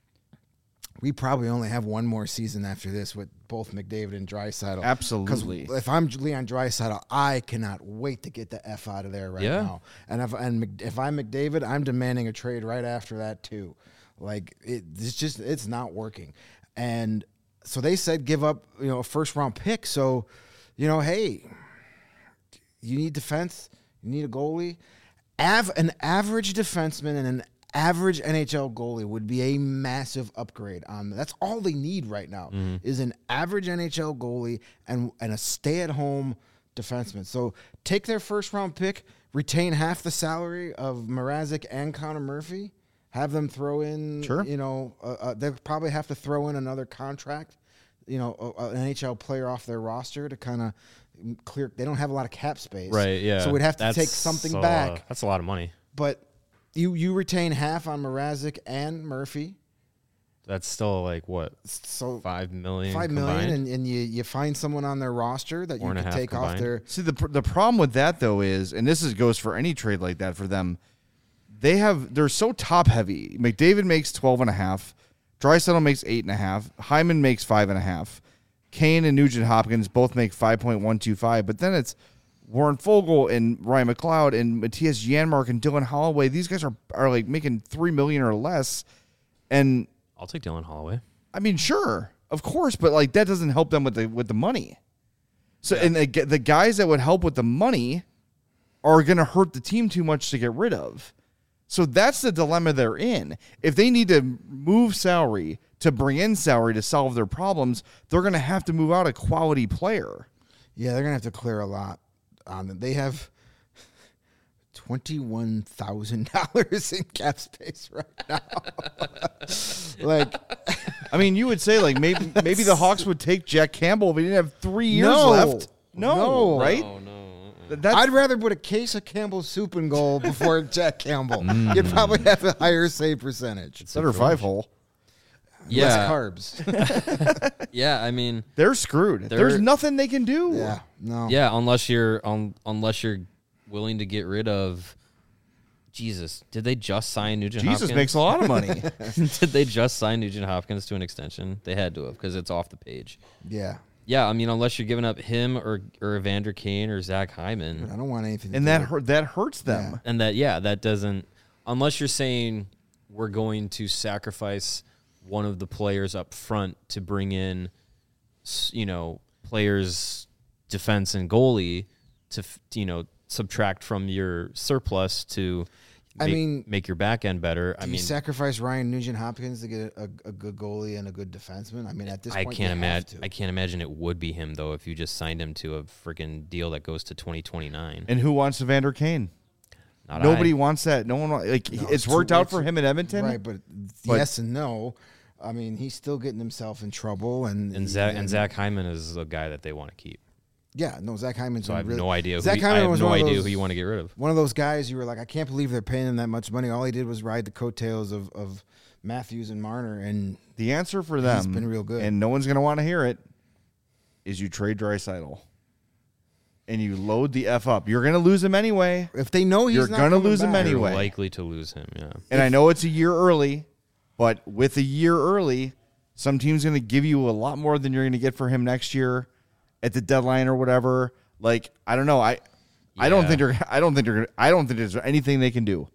We probably only have one more season after this with both McDavid and Draisaitl. Absolutely. Because if I'm Leon Draisaitl, I cannot wait to get the F out of there right Yeah. now. And if and Mc- if I'm McDavid, I'm demanding a trade right after that too. Like it, it's just it's not working. And so they said give up you know a first round pick. So you know hey, you need defense, you need a goalie. Av- an average defenseman and an average N H L goalie would be a massive upgrade on that's all they need right now is an average N H L goalie and and a stay-at-home defenseman. So take their first round pick, retain half the salary of Mrazek and Connor Murphy, have them throw in Sure. you know uh, uh, they'll probably have to throw in another contract, you know, a, a- an N H L player off their roster to kind of clear. They don't have a lot of cap space. right, yeah. So we'd have to That's, take something uh, back. That's a lot of money. But you you retain half on Mrazek and Murphy, That's still like what so five million. five million, combined? and, and you you find someone on their roster that Four you and a can half take off combined. their. See, the pr- the problem with that though is, and this is goes for any trade like that for them, they have they're so top heavy. McDavid makes twelve and a half, Draisaitl makes eight and a half, Hyman makes five and a half, Kane and Nugent Hopkins both make five point one two five, but then it's Warren Fogle and Ryan McLeod and Matthias Janmark and Dylan Holloway. These guys are are like making three million or less, and I'll take Dylan Holloway. I mean, sure, of course, but like that doesn't help them with the with the money. So, and the, the guys that would help with the money are going to hurt the team too much to get rid of. So that's the dilemma they're in. If they need to move salary to bring in salary to solve their problems, they're going to have to move out a quality player. Yeah, they're gonna have to clear a lot on them. They have twenty one thousand dollars in cap space right now. Like, I mean, you would say like maybe maybe the Hawks would take Jack Campbell if he didn't have three years No. left. No, No. right? Oh no. Th- That's, I'd rather put a case of Campbell's soup in goal before Jack Campbell. Mm. You'd probably have a higher save percentage. better five hole. Yeah. Less carbs. Yeah, I mean, They're screwed. They're- There's nothing they can do. Yeah, no. yeah, unless you're on, unless you're willing to get rid of. Jesus, did they just sign Nugent Jesus Hopkins? makes a lot of money. Did they just sign Nugent Hopkins to an extension? They had to have because it's off the page. Yeah. Yeah, I mean, unless you're giving up him or or Evander Kane or Zach I Hyman, don't want anything. to and do that with- hurt, that hurts them. Yeah. and that yeah, that doesn't. Unless you're saying we're going to sacrifice one of the players up front to bring in, s- you know, players defense and goalie to f- you know subtract from your surplus to. I make, mean, make your back end better. I Do you mean, sacrifice Ryan Nugent Hopkins to get a, a, a good goalie and a good defenseman? I mean, at this I point, can't you have imagine. to. I can't imagine it would be him though if you just signed him to a freaking deal that goes to twenty twenty nine. And who wants Evander Kane? Not Nobody I. wants that. No one wa- like No, it's it's worked too- out it's- for him in Edmonton. Right, but, But- yes and no. I mean, he's still getting himself in trouble, and And Zach and Zach Hyman is a guy that they want to keep. Yeah, no, Zach Hyman's. So I have really, no idea. Who Zach he, Hyman I have was no one of idea those- who you want to get rid of. One of those guys you were like, I can't believe they're paying him that much money. All he did was ride the coattails of, of Matthews and Marner, and The answer for them, been real good. and no one's going to want to hear it, is you trade Draisaitl. And you load the F up. You're going to lose him anyway. if they know he's You're not gonna coming lose him back- anyway. You're likely to lose him. Yeah. And I know it's a year early, but with a year early, some team's going to give you a lot more than you're going to get for him next year at the deadline or whatever. Like, I don't know. I I don't Yeah. think they're I don't think they're gonna, I don't think there's anything they can do.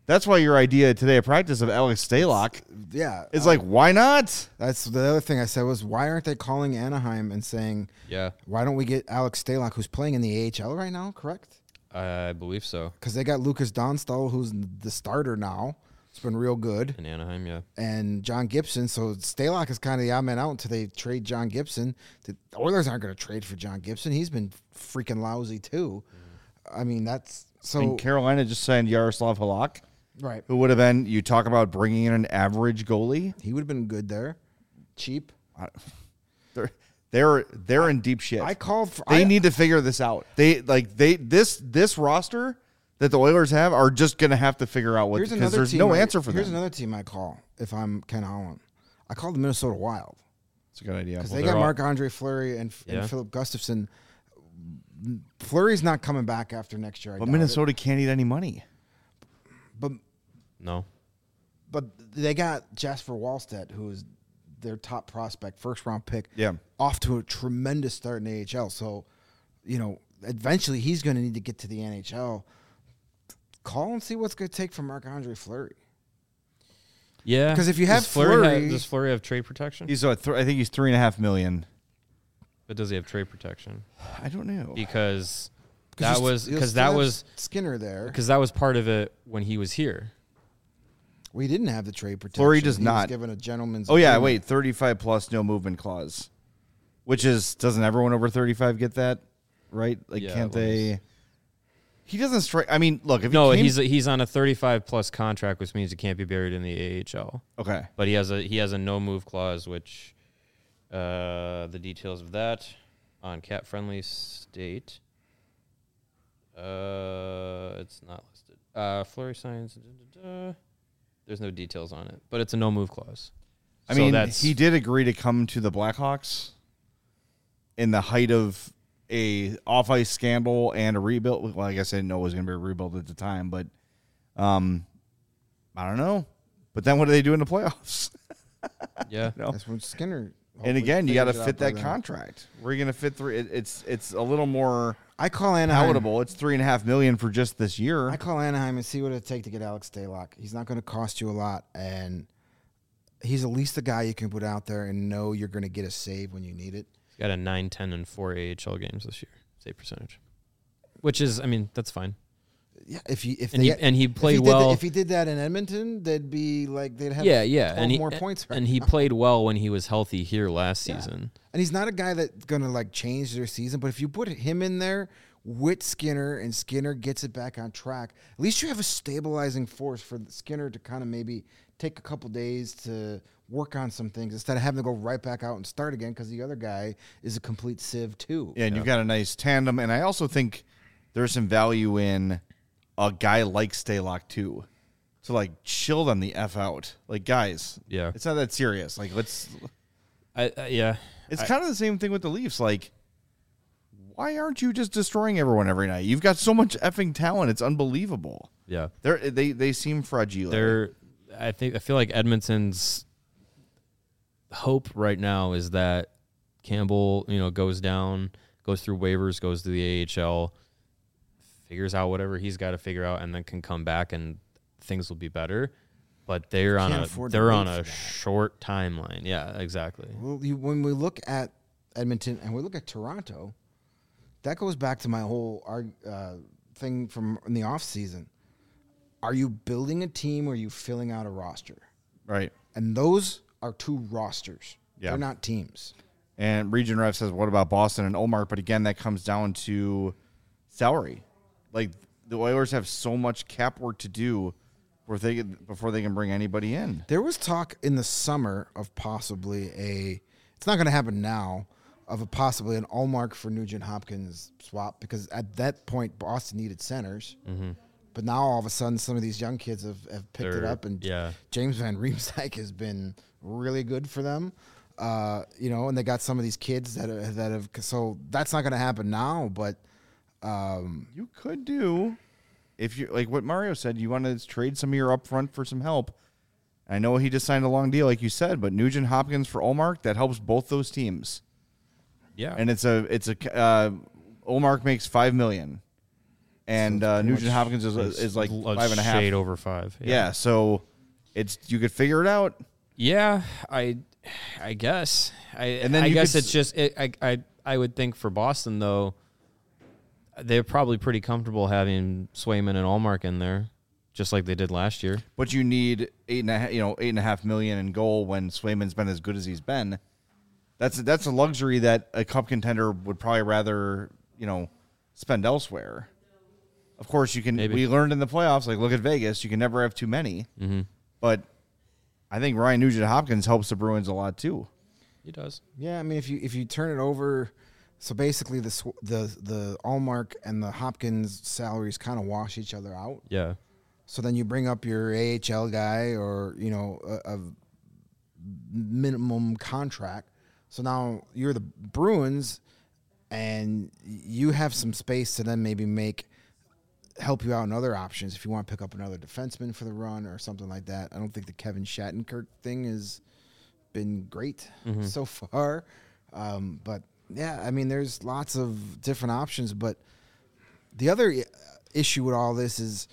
That's why your idea today at practice of Alex Stalock Yeah. is uh, like, why not? That's the other thing I said was, why aren't they calling Anaheim and saying, Yeah, why don't we get Alex Stalock, who's playing in the A H L right now, correct? I believe so. Because they got Lucas Donstall, who's the starter now. It's been real good. In Anaheim, yeah. And John Gibson. So Stalock is kind of the odd man out until they trade John Gibson. The Oilers aren't going to trade for John Gibson. He's been freaking lousy, too. I mean, that's so. And Carolina just signed Yaroslav Halak, Right. who would have been, you talk about bringing in an average goalie. He would have been good there. Cheap. They're they're they're in deep shit. I called for. They I, need to figure this out. They like they this this roster that the Oilers have are just going to have to figure out what, Here's because another there's team no I- answer for Here's them. another team I call if I'm Ken Holland. I call the Minnesota Wild It's a good idea. because Well, they they're got all- Marc-Andre Fleury and, Yeah. and Philip Gustafson. Fleury's not coming back after next year. I But doubt Minnesota can't eat any money. it. But No. but they got Jasper Wallstedt, who is their top prospect, first round pick. Yeah. Off to a tremendous start in the A H L. So, you know, eventually he's going to need to get to the N H L. Call and see what's going to take from Marc-Andre Fleury. Yeah. Because if you have does Fleury, Fleury- have, does Fleury have trade protection? He's what, th- I think he's three and a half million. But does he have trade protection? I don't know. Because Because that you was st- you'll because still that have was Skinner there. because that was part of it when he was here. We didn't have the trade protection. Fleury does He was not. given a gentleman's. Oh yeah, agreement. wait, thirty-five plus no movement clause, which is doesn't everyone over thirty-five get that, right? Like, Yeah, can't it was. they? He doesn't strike. I mean, look, if No, he came, he's he's on a thirty-five plus contract, which means he can't be buried in the A H L. okay. But he has a he has a no move clause, which uh, the details of that on cap friendly state. Uh, it's not listed. Uh, Fleury signs. Da, da, da. There's no details on it, but it's a no move clause. I So mean, that's he did agree to come to the Blackhawks in the height of a off ice scandal and a rebuild. Well, I guess I didn't know it was going to be a rebuild at the time, but um, I don't know. But then what do they do in the playoffs? yeah. You know? That's when Skinner. And hopefully again, you got to figures it fit out by that then. contract. Where are you going to fit three? It, it's it's a little more I call Anaheim. palatable. It's three and a half million for just this year. I call Anaheim and see what it take to get Alex Stalock. He's not going to cost you a lot, and he's at least a guy you can put out there and know you're going to get a save when you need it. He's got a nine, ten, and four A H L games this year, save percentage, which is, I mean, that's fine. Yeah, if he if And they, he and he if played he did well. that- if he did that in Edmonton, they'd be like they'd have yeah, yeah, twelve and he more points. Right and he now. played well when he was healthy here last Yeah. season. And he's not a guy that's going to like change their season. But if you put him in there with Skinner and Skinner gets it back on track, at least you have a stabilizing force for Skinner to kind of maybe take a couple days to work on some things instead of having to go right back out and start again because the other guy is a complete sieve too. Yeah, and you've got a nice tandem. And I also think there's some value in a guy like Stalock too, to like chill them the f out. Like, guys, Yeah, it's not that serious. Like, let's. I, I, yeah, It's I- kind of the same thing with the Leafs. Like, why aren't you just destroying everyone every night? You've got so much effing talent. It's unbelievable. yeah. They're they they seem fragile. They're, I think, I feel like Edmonton's hope right now is that Campbell, you know, goes down, goes through waivers, goes to the A H L, figures out whatever he's got to figure out, and then can come back and things will be better. But they're on Can't a afford to they're wait on for a that. short timeline. Yeah, exactly. Well, you, when we look at Edmonton and we look at Toronto, that goes back to my whole arg- uh, thing from in the off season. Are you building a team or are you filling out a roster? right. And those are two rosters. Yeah. They're not teams. And Region Ref says, what about Boston and Omar? But again, that comes down to salary. Like, the Oilers have so much cap work to do before they, before they can bring anybody in. There was talk in the summer of possibly a, it's not going to happen now, of a possibly an Allmark for Nugent Hopkins swap because at that point, Boston needed centers. Mm-hmm. But now all of a sudden, some of these young kids have, have picked it They're- up, and yeah. James Van Riemsdyk has been really good for them. Uh, you know, and they got some of these kids that are, that have. So that's not going to happen now. But um, You could do, if you like what Mario said, you want to trade some of your upfront for some help. I know he just signed a long deal, like you said, but Nugent Hopkins for Olmark, that helps both those teams. Yeah, And it's a it's a uh, Olmark makes five million. and So it's uh, pretty Nugent much- Hopkins is, It's is like a five and a half. shade over five. Yeah. so it's you could figure it out. Yeah, I, I guess. I And then I you guess could it's s- just it, I I I would think for Boston though, they're probably pretty comfortable having Swayman and Allmark in there, just like they did last year. But you need eight and a half, you know, eight and a half million in goal when Swayman's been as good as he's been. That's that's a luxury that a cup contender would probably rather, you know, spend elsewhere. Of course, you can. Maybe. We learned in the playoffs, like look at Vegas, you can never have too many. Mm-hmm. But I think Ryan Nugent Hopkins helps the Bruins a lot too. He does. Yeah, I mean, if you if you turn it over, so basically the sw- the the Allmark and the Hopkins salaries kind of wash each other out. Yeah. So then you bring up your A H L guy or you know a, a minimum contract. So now you're the Bruins, and you have some space to then maybe make help you out in other options if you want to pick up another defenseman for the run or something like that. I don't think the Kevin Shattenkirk thing has been great Mm-hmm. so far, um, but yeah, I mean, there's lots of different options. But the other i- issue with all this is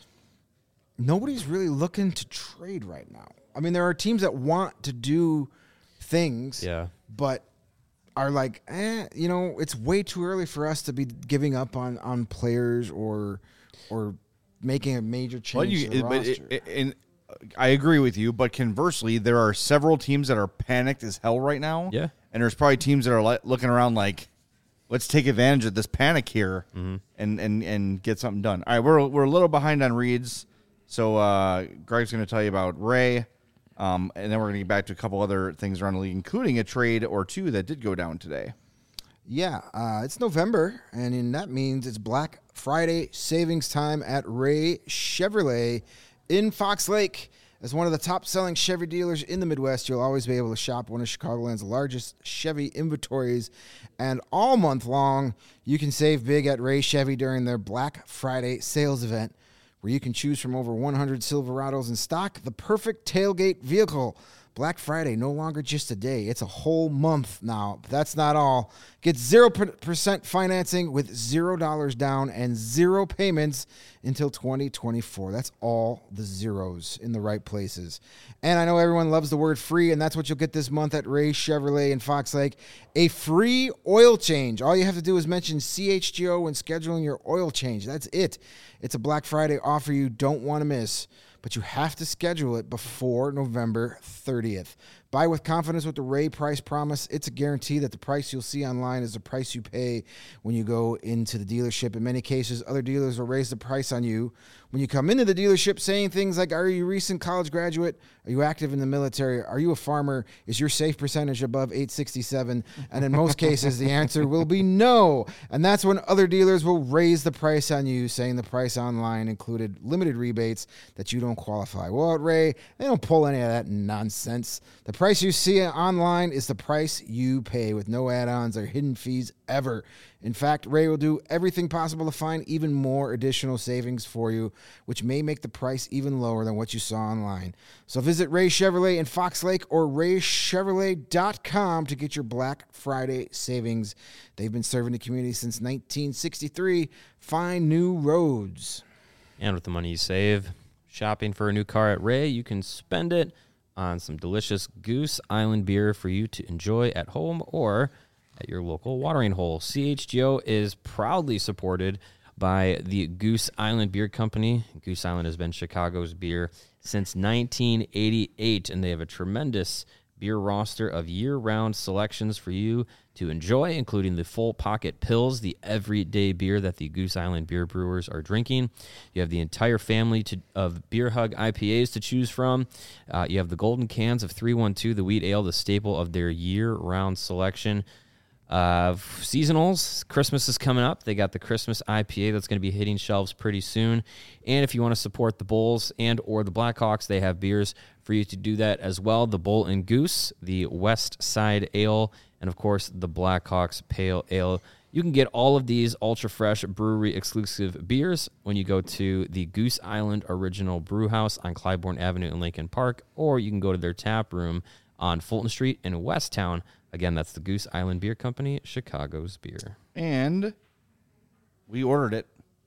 nobody's really looking to trade right now. I mean, there are teams that want to do things, Yeah. but are like, eh, you know, it's way too early for us to be giving up on, on players or or making a major change Well, you, to the but roster. it, it, and I agree with you. But conversely, there are several teams that are panicked as hell right now. Yeah. and there's probably teams that are li- looking around like, let's take advantage of this panic here Mm-hmm. and, and and get something done. All right, we're we're a little behind on reads, so uh, Greg's going to tell you about Ray, um, and then we're going to get back to a couple other things around the league, including a trade or two that did go down today. Yeah, uh, it's November, and in that means it's Black Friday savings time at Ray Chevrolet in Fox Lake. As one of the top-selling Chevy dealers in the Midwest, you'll always be able to shop one of Chicagoland's largest Chevy inventories. And all month long, you can save big at Ray Chevy during their Black Friday sales event, where you can choose from over one hundred Silverados in stock, the perfect tailgate vehicle. Black Friday, no longer just a day. It's a whole month now. But that's not all. Get zero percent financing with zero dollars down and zero payments until twenty twenty-four. That's all the zeros in the right places. And I know everyone loves the word free, and that's what you'll get this month at Ray Chevrolet in Fox Lake. A free oil change. All you have to do is mention C H G O when scheduling your oil change. That's it. It's a Black Friday offer you don't want to miss, but you have to schedule it before November thirtieth. Buy with confidence with the Ray Price Promise. It's a guarantee that the price you'll see online is the price you pay when you go into the dealership. In many cases, other dealers will raise the price on you when you come into the dealership, saying things like, are you a recent college graduate? Are you active in the military? Are you a farmer? Is your safe percentage above eight sixty-seven? And in most cases, the answer will be no. And that's when other dealers will raise the price on you, saying the price online included limited rebates that you don't qualify. Well, at Ray, they don't pull any of that nonsense. The price you see online is the price you pay with no add-ons or hidden fees ever. In fact, Ray will do everything possible to find even more additional savings for you, which may make the price even lower than what you saw online. So visit Ray Chevrolet in Fox Lake or ray chevrolet dot com to get your Black Friday savings. They've been serving the community since nineteen sixty-three. Find new roads. And with the money you save shopping for a new car at Ray, you can spend it on some delicious Goose Island beer for you to enjoy at home or at your local watering hole. C H G O is proudly supported by the Goose Island Beer Company. Goose Island has been Chicago's beer since nineteen eighty-eight, and they have a tremendous beer roster of year-round selections for you to enjoy, including the Full Pocket Pills, the everyday beer that the Goose Island beer brewers are drinking. You have the entire family to, of Beer Hug I P As to choose from. Uh, you have the golden cans of three one two, the wheat ale, the staple of their year-round selection. Uh, seasonals, Christmas is coming up. They got the Christmas I P A that's going to be hitting shelves pretty soon. And if you want to support the Bulls and or the Blackhawks, they have beers for you to do that as well. The Bull and Goose, the West Side Ale, and of course the Blackhawks Pale Ale. You can get all of these ultra-fresh brewery-exclusive beers when you go to the Goose Island Original Brew House on Clybourne Avenue in Lincoln Park, or you can go to their tap room on Fulton Street in Westtown. Again, that's the Goose Island Beer Company, Chicago's beer. And we ordered it.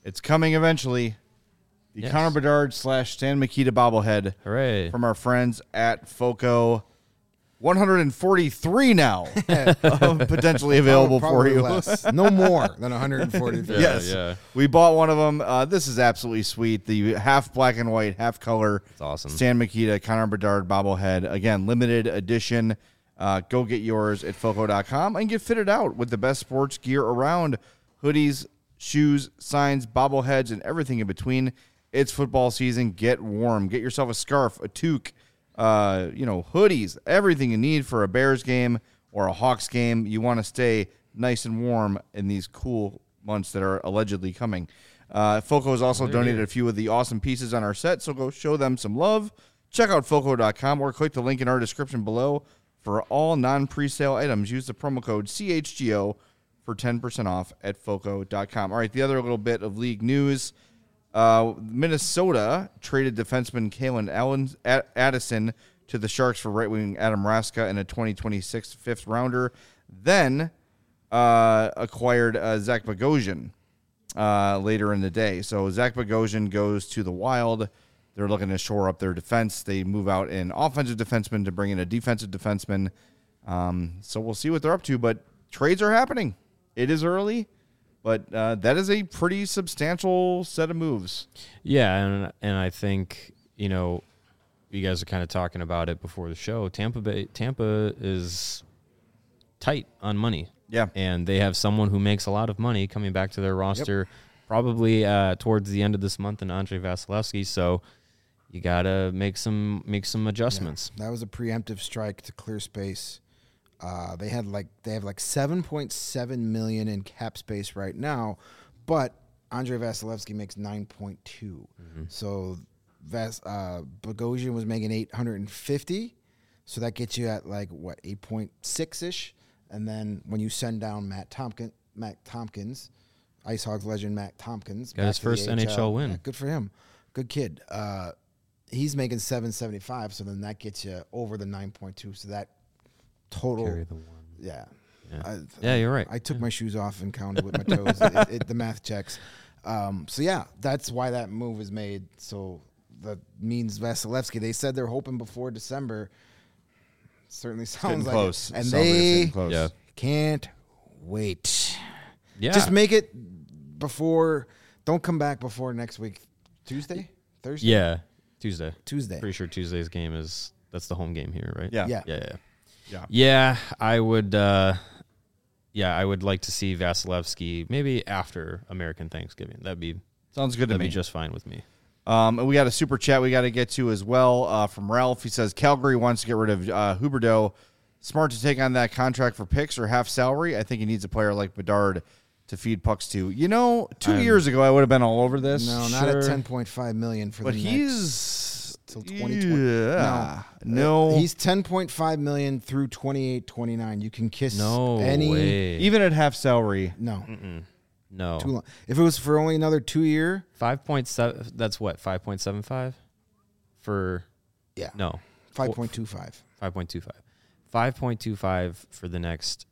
It's coming eventually. The Yes. Connor Bedard slash Stan Mikita bobblehead Hooray. from our friends at Foco. one hundred forty-three now um, potentially available for Probably you. less. No more than one hundred forty-three. Yes. yeah. We bought one of them. Uh, this is absolutely sweet. The half black and white, half color. It's awesome. Stan Mikita, Connor Bedard bobblehead. Again, limited edition. Uh, go get yours at foco dot com and get fitted out with the best sports gear around. Hoodies, shoes, signs, bobbleheads, and everything in between. It's football season. Get warm. Get yourself a scarf, a toque, uh, you know, hoodies, everything you need for a Bears game or a Hawks game. You want to stay nice and warm in these cool months that are allegedly coming. Uh, Foco has also donated a few of the awesome pieces on our set, so go show them some love. Check out foco dot com or click the link in our description below for all non-presale items. Use the promo code C H G O for ten percent off at foco dot com. All right, the other little bit of league news. Uh, Minnesota traded defenseman Kalen Allen, Ad- Addison to the Sharks for right wing Adam Raska in a twenty twenty-six fifth rounder. Then uh, acquired uh, Zach Bogosian uh, later in the day. So Zach Bogosian goes to the Wild. They're looking to shore up their defense. They move out an offensive defenseman to bring in a defensive defenseman. Um, so we'll see what they're up to. But trades are happening. It is early. But uh, that is a pretty substantial set of moves. Yeah, and and I think, you know, you guys are kind of talking about it before the show. Tampa Bay, Tampa is tight on money. Yeah. And they have someone who makes a lot of money coming back to their roster probably uh, towards the end of this month in Andre Vasilevsky. So you got to make some make some adjustments. Yeah, that was a preemptive strike to clear space. Uh, they had like they have like seven point seven million in cap space right now, but Andre Vasilevsky makes nine point two. Mm-hmm. So Vas uh, Bogosian was making eight hundred fifty, so that gets you at like what eight point six ish. And then when you send down Matt Tompkins, Matt Tompkins, Ice Hogs legend Matt Tompkins, got his first N H L win. Yeah, good for him, good kid. Uh, he's making seven seventy five, so then that gets you over the nine point two. So that total, Carry the one. yeah, Yeah. I, Yeah, you're right. I took Yeah. my shoes off and counted with my toes. it, it, the math checks. Um, so yeah, that's why that move is made. So that means Vasilevsky. They said they're hoping before December. Certainly sounds Getting like close. it. And Sounds like it's they getting close. Yeah. can't wait. Yeah. Just make it before. Don't come back before next week. Tuesday, Thursday. Yeah. Tuesday. Tuesday. Pretty sure Tuesday's game is that's the home game here, right? Yeah. Yeah. Yeah, yeah. Yeah. Yeah, I would uh yeah, I would like to see Vasilevsky maybe after American Thanksgiving. That'd be Sounds good to that'd me. be just fine with me. Um, and we got a super chat we got to get to as well uh, from Ralph. He says Calgary wants to get rid of uh, Huberdeau. Smart to take on that contract for picks or half salary. I think he needs a player like Bedard to feed pucks to. You know, 2 I'm- years ago I would have been all over this. No, not Sure. at ten point five million for but the he's next till twenty twenty. Yeah, No, no, he's ten point five million through twenty-eight twenty-nine. You can kiss No any way. even at half salary. no. Mm-mm. No. Too long. If it was for only another two year, five point seven that's what? five point seven five for yeah, No. five point two five. five point two five. five point two five for the next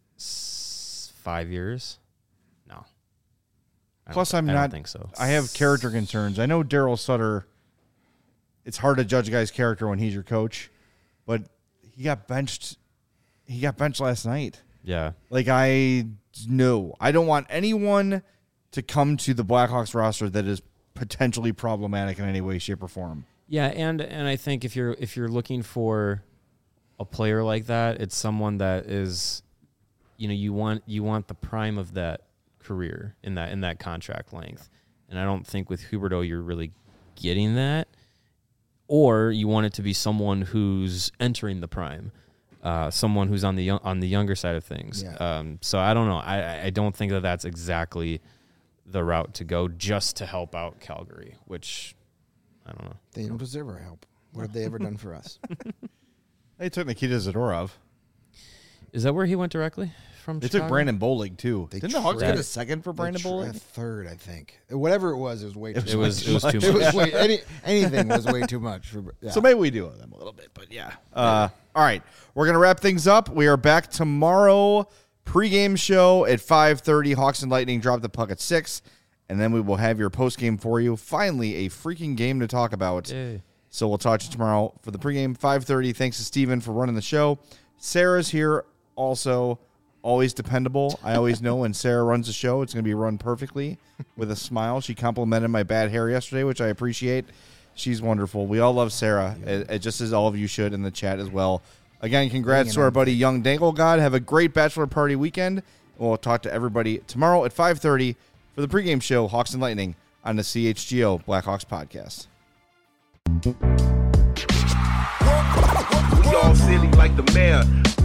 s- five years? No. I don't Plus, thi- I'm I not- don't think so. I have character concerns. I know Daryl Sutter. It's hard to judge a guy's character when he's your coach, but he got benched. He got benched last night. Yeah. Like, I no, I don't want anyone to come to the Blackhawks roster that is potentially problematic in any way, shape, or form. Yeah, and and I think if you're if you're looking for a player like that, it's someone that is, you know, you want you want the prime of that career in that in that contract length, and I don't think with Huberdeau you're really getting that, or you want it to be someone who's entering the prime, uh, someone who's on the young, on the younger side of things. Yeah. Um, so I don't know. I I don't think that that's exactly the route to go just to help out Calgary, which I don't know. They don't deserve our help. What have they ever done for us? They took Nikita Zadorov. Is that where he went directly from? They Chicago? took Brandon Bolig too. They Didn't the Hawks tried- get a second for Brandon They tr- a Bolig? third, I think. Whatever it was, it was way too It was it was too It was much. way, any, anything was way too much. For, yeah. So maybe we do owe them a little bit, but yeah. Uh, all right, we're gonna wrap things up. We are back tomorrow. Pre-game show at five thirty. Hawks and Lightning drop the puck at six, and then we will have your post game for you. Finally, a freaking game to talk about. Yay. So we'll talk to you tomorrow for the pregame, five thirty. Thanks to Steven for running the show. Sarah's here also, always dependable. I always know when Sarah runs the show, it's going to be run perfectly with a smile. She complimented my bad hair yesterday, which I appreciate. She's wonderful. We all love Sarah, yeah. just as all of you should in the chat as well. Again, congrats to our buddy Young Dangle God. Have a great bachelor party weekend. We'll talk to everybody tomorrow at five thirty for the pregame show, Hawks and Lightning, on the C H G O Blackhawks podcast. We all silly like the mayor.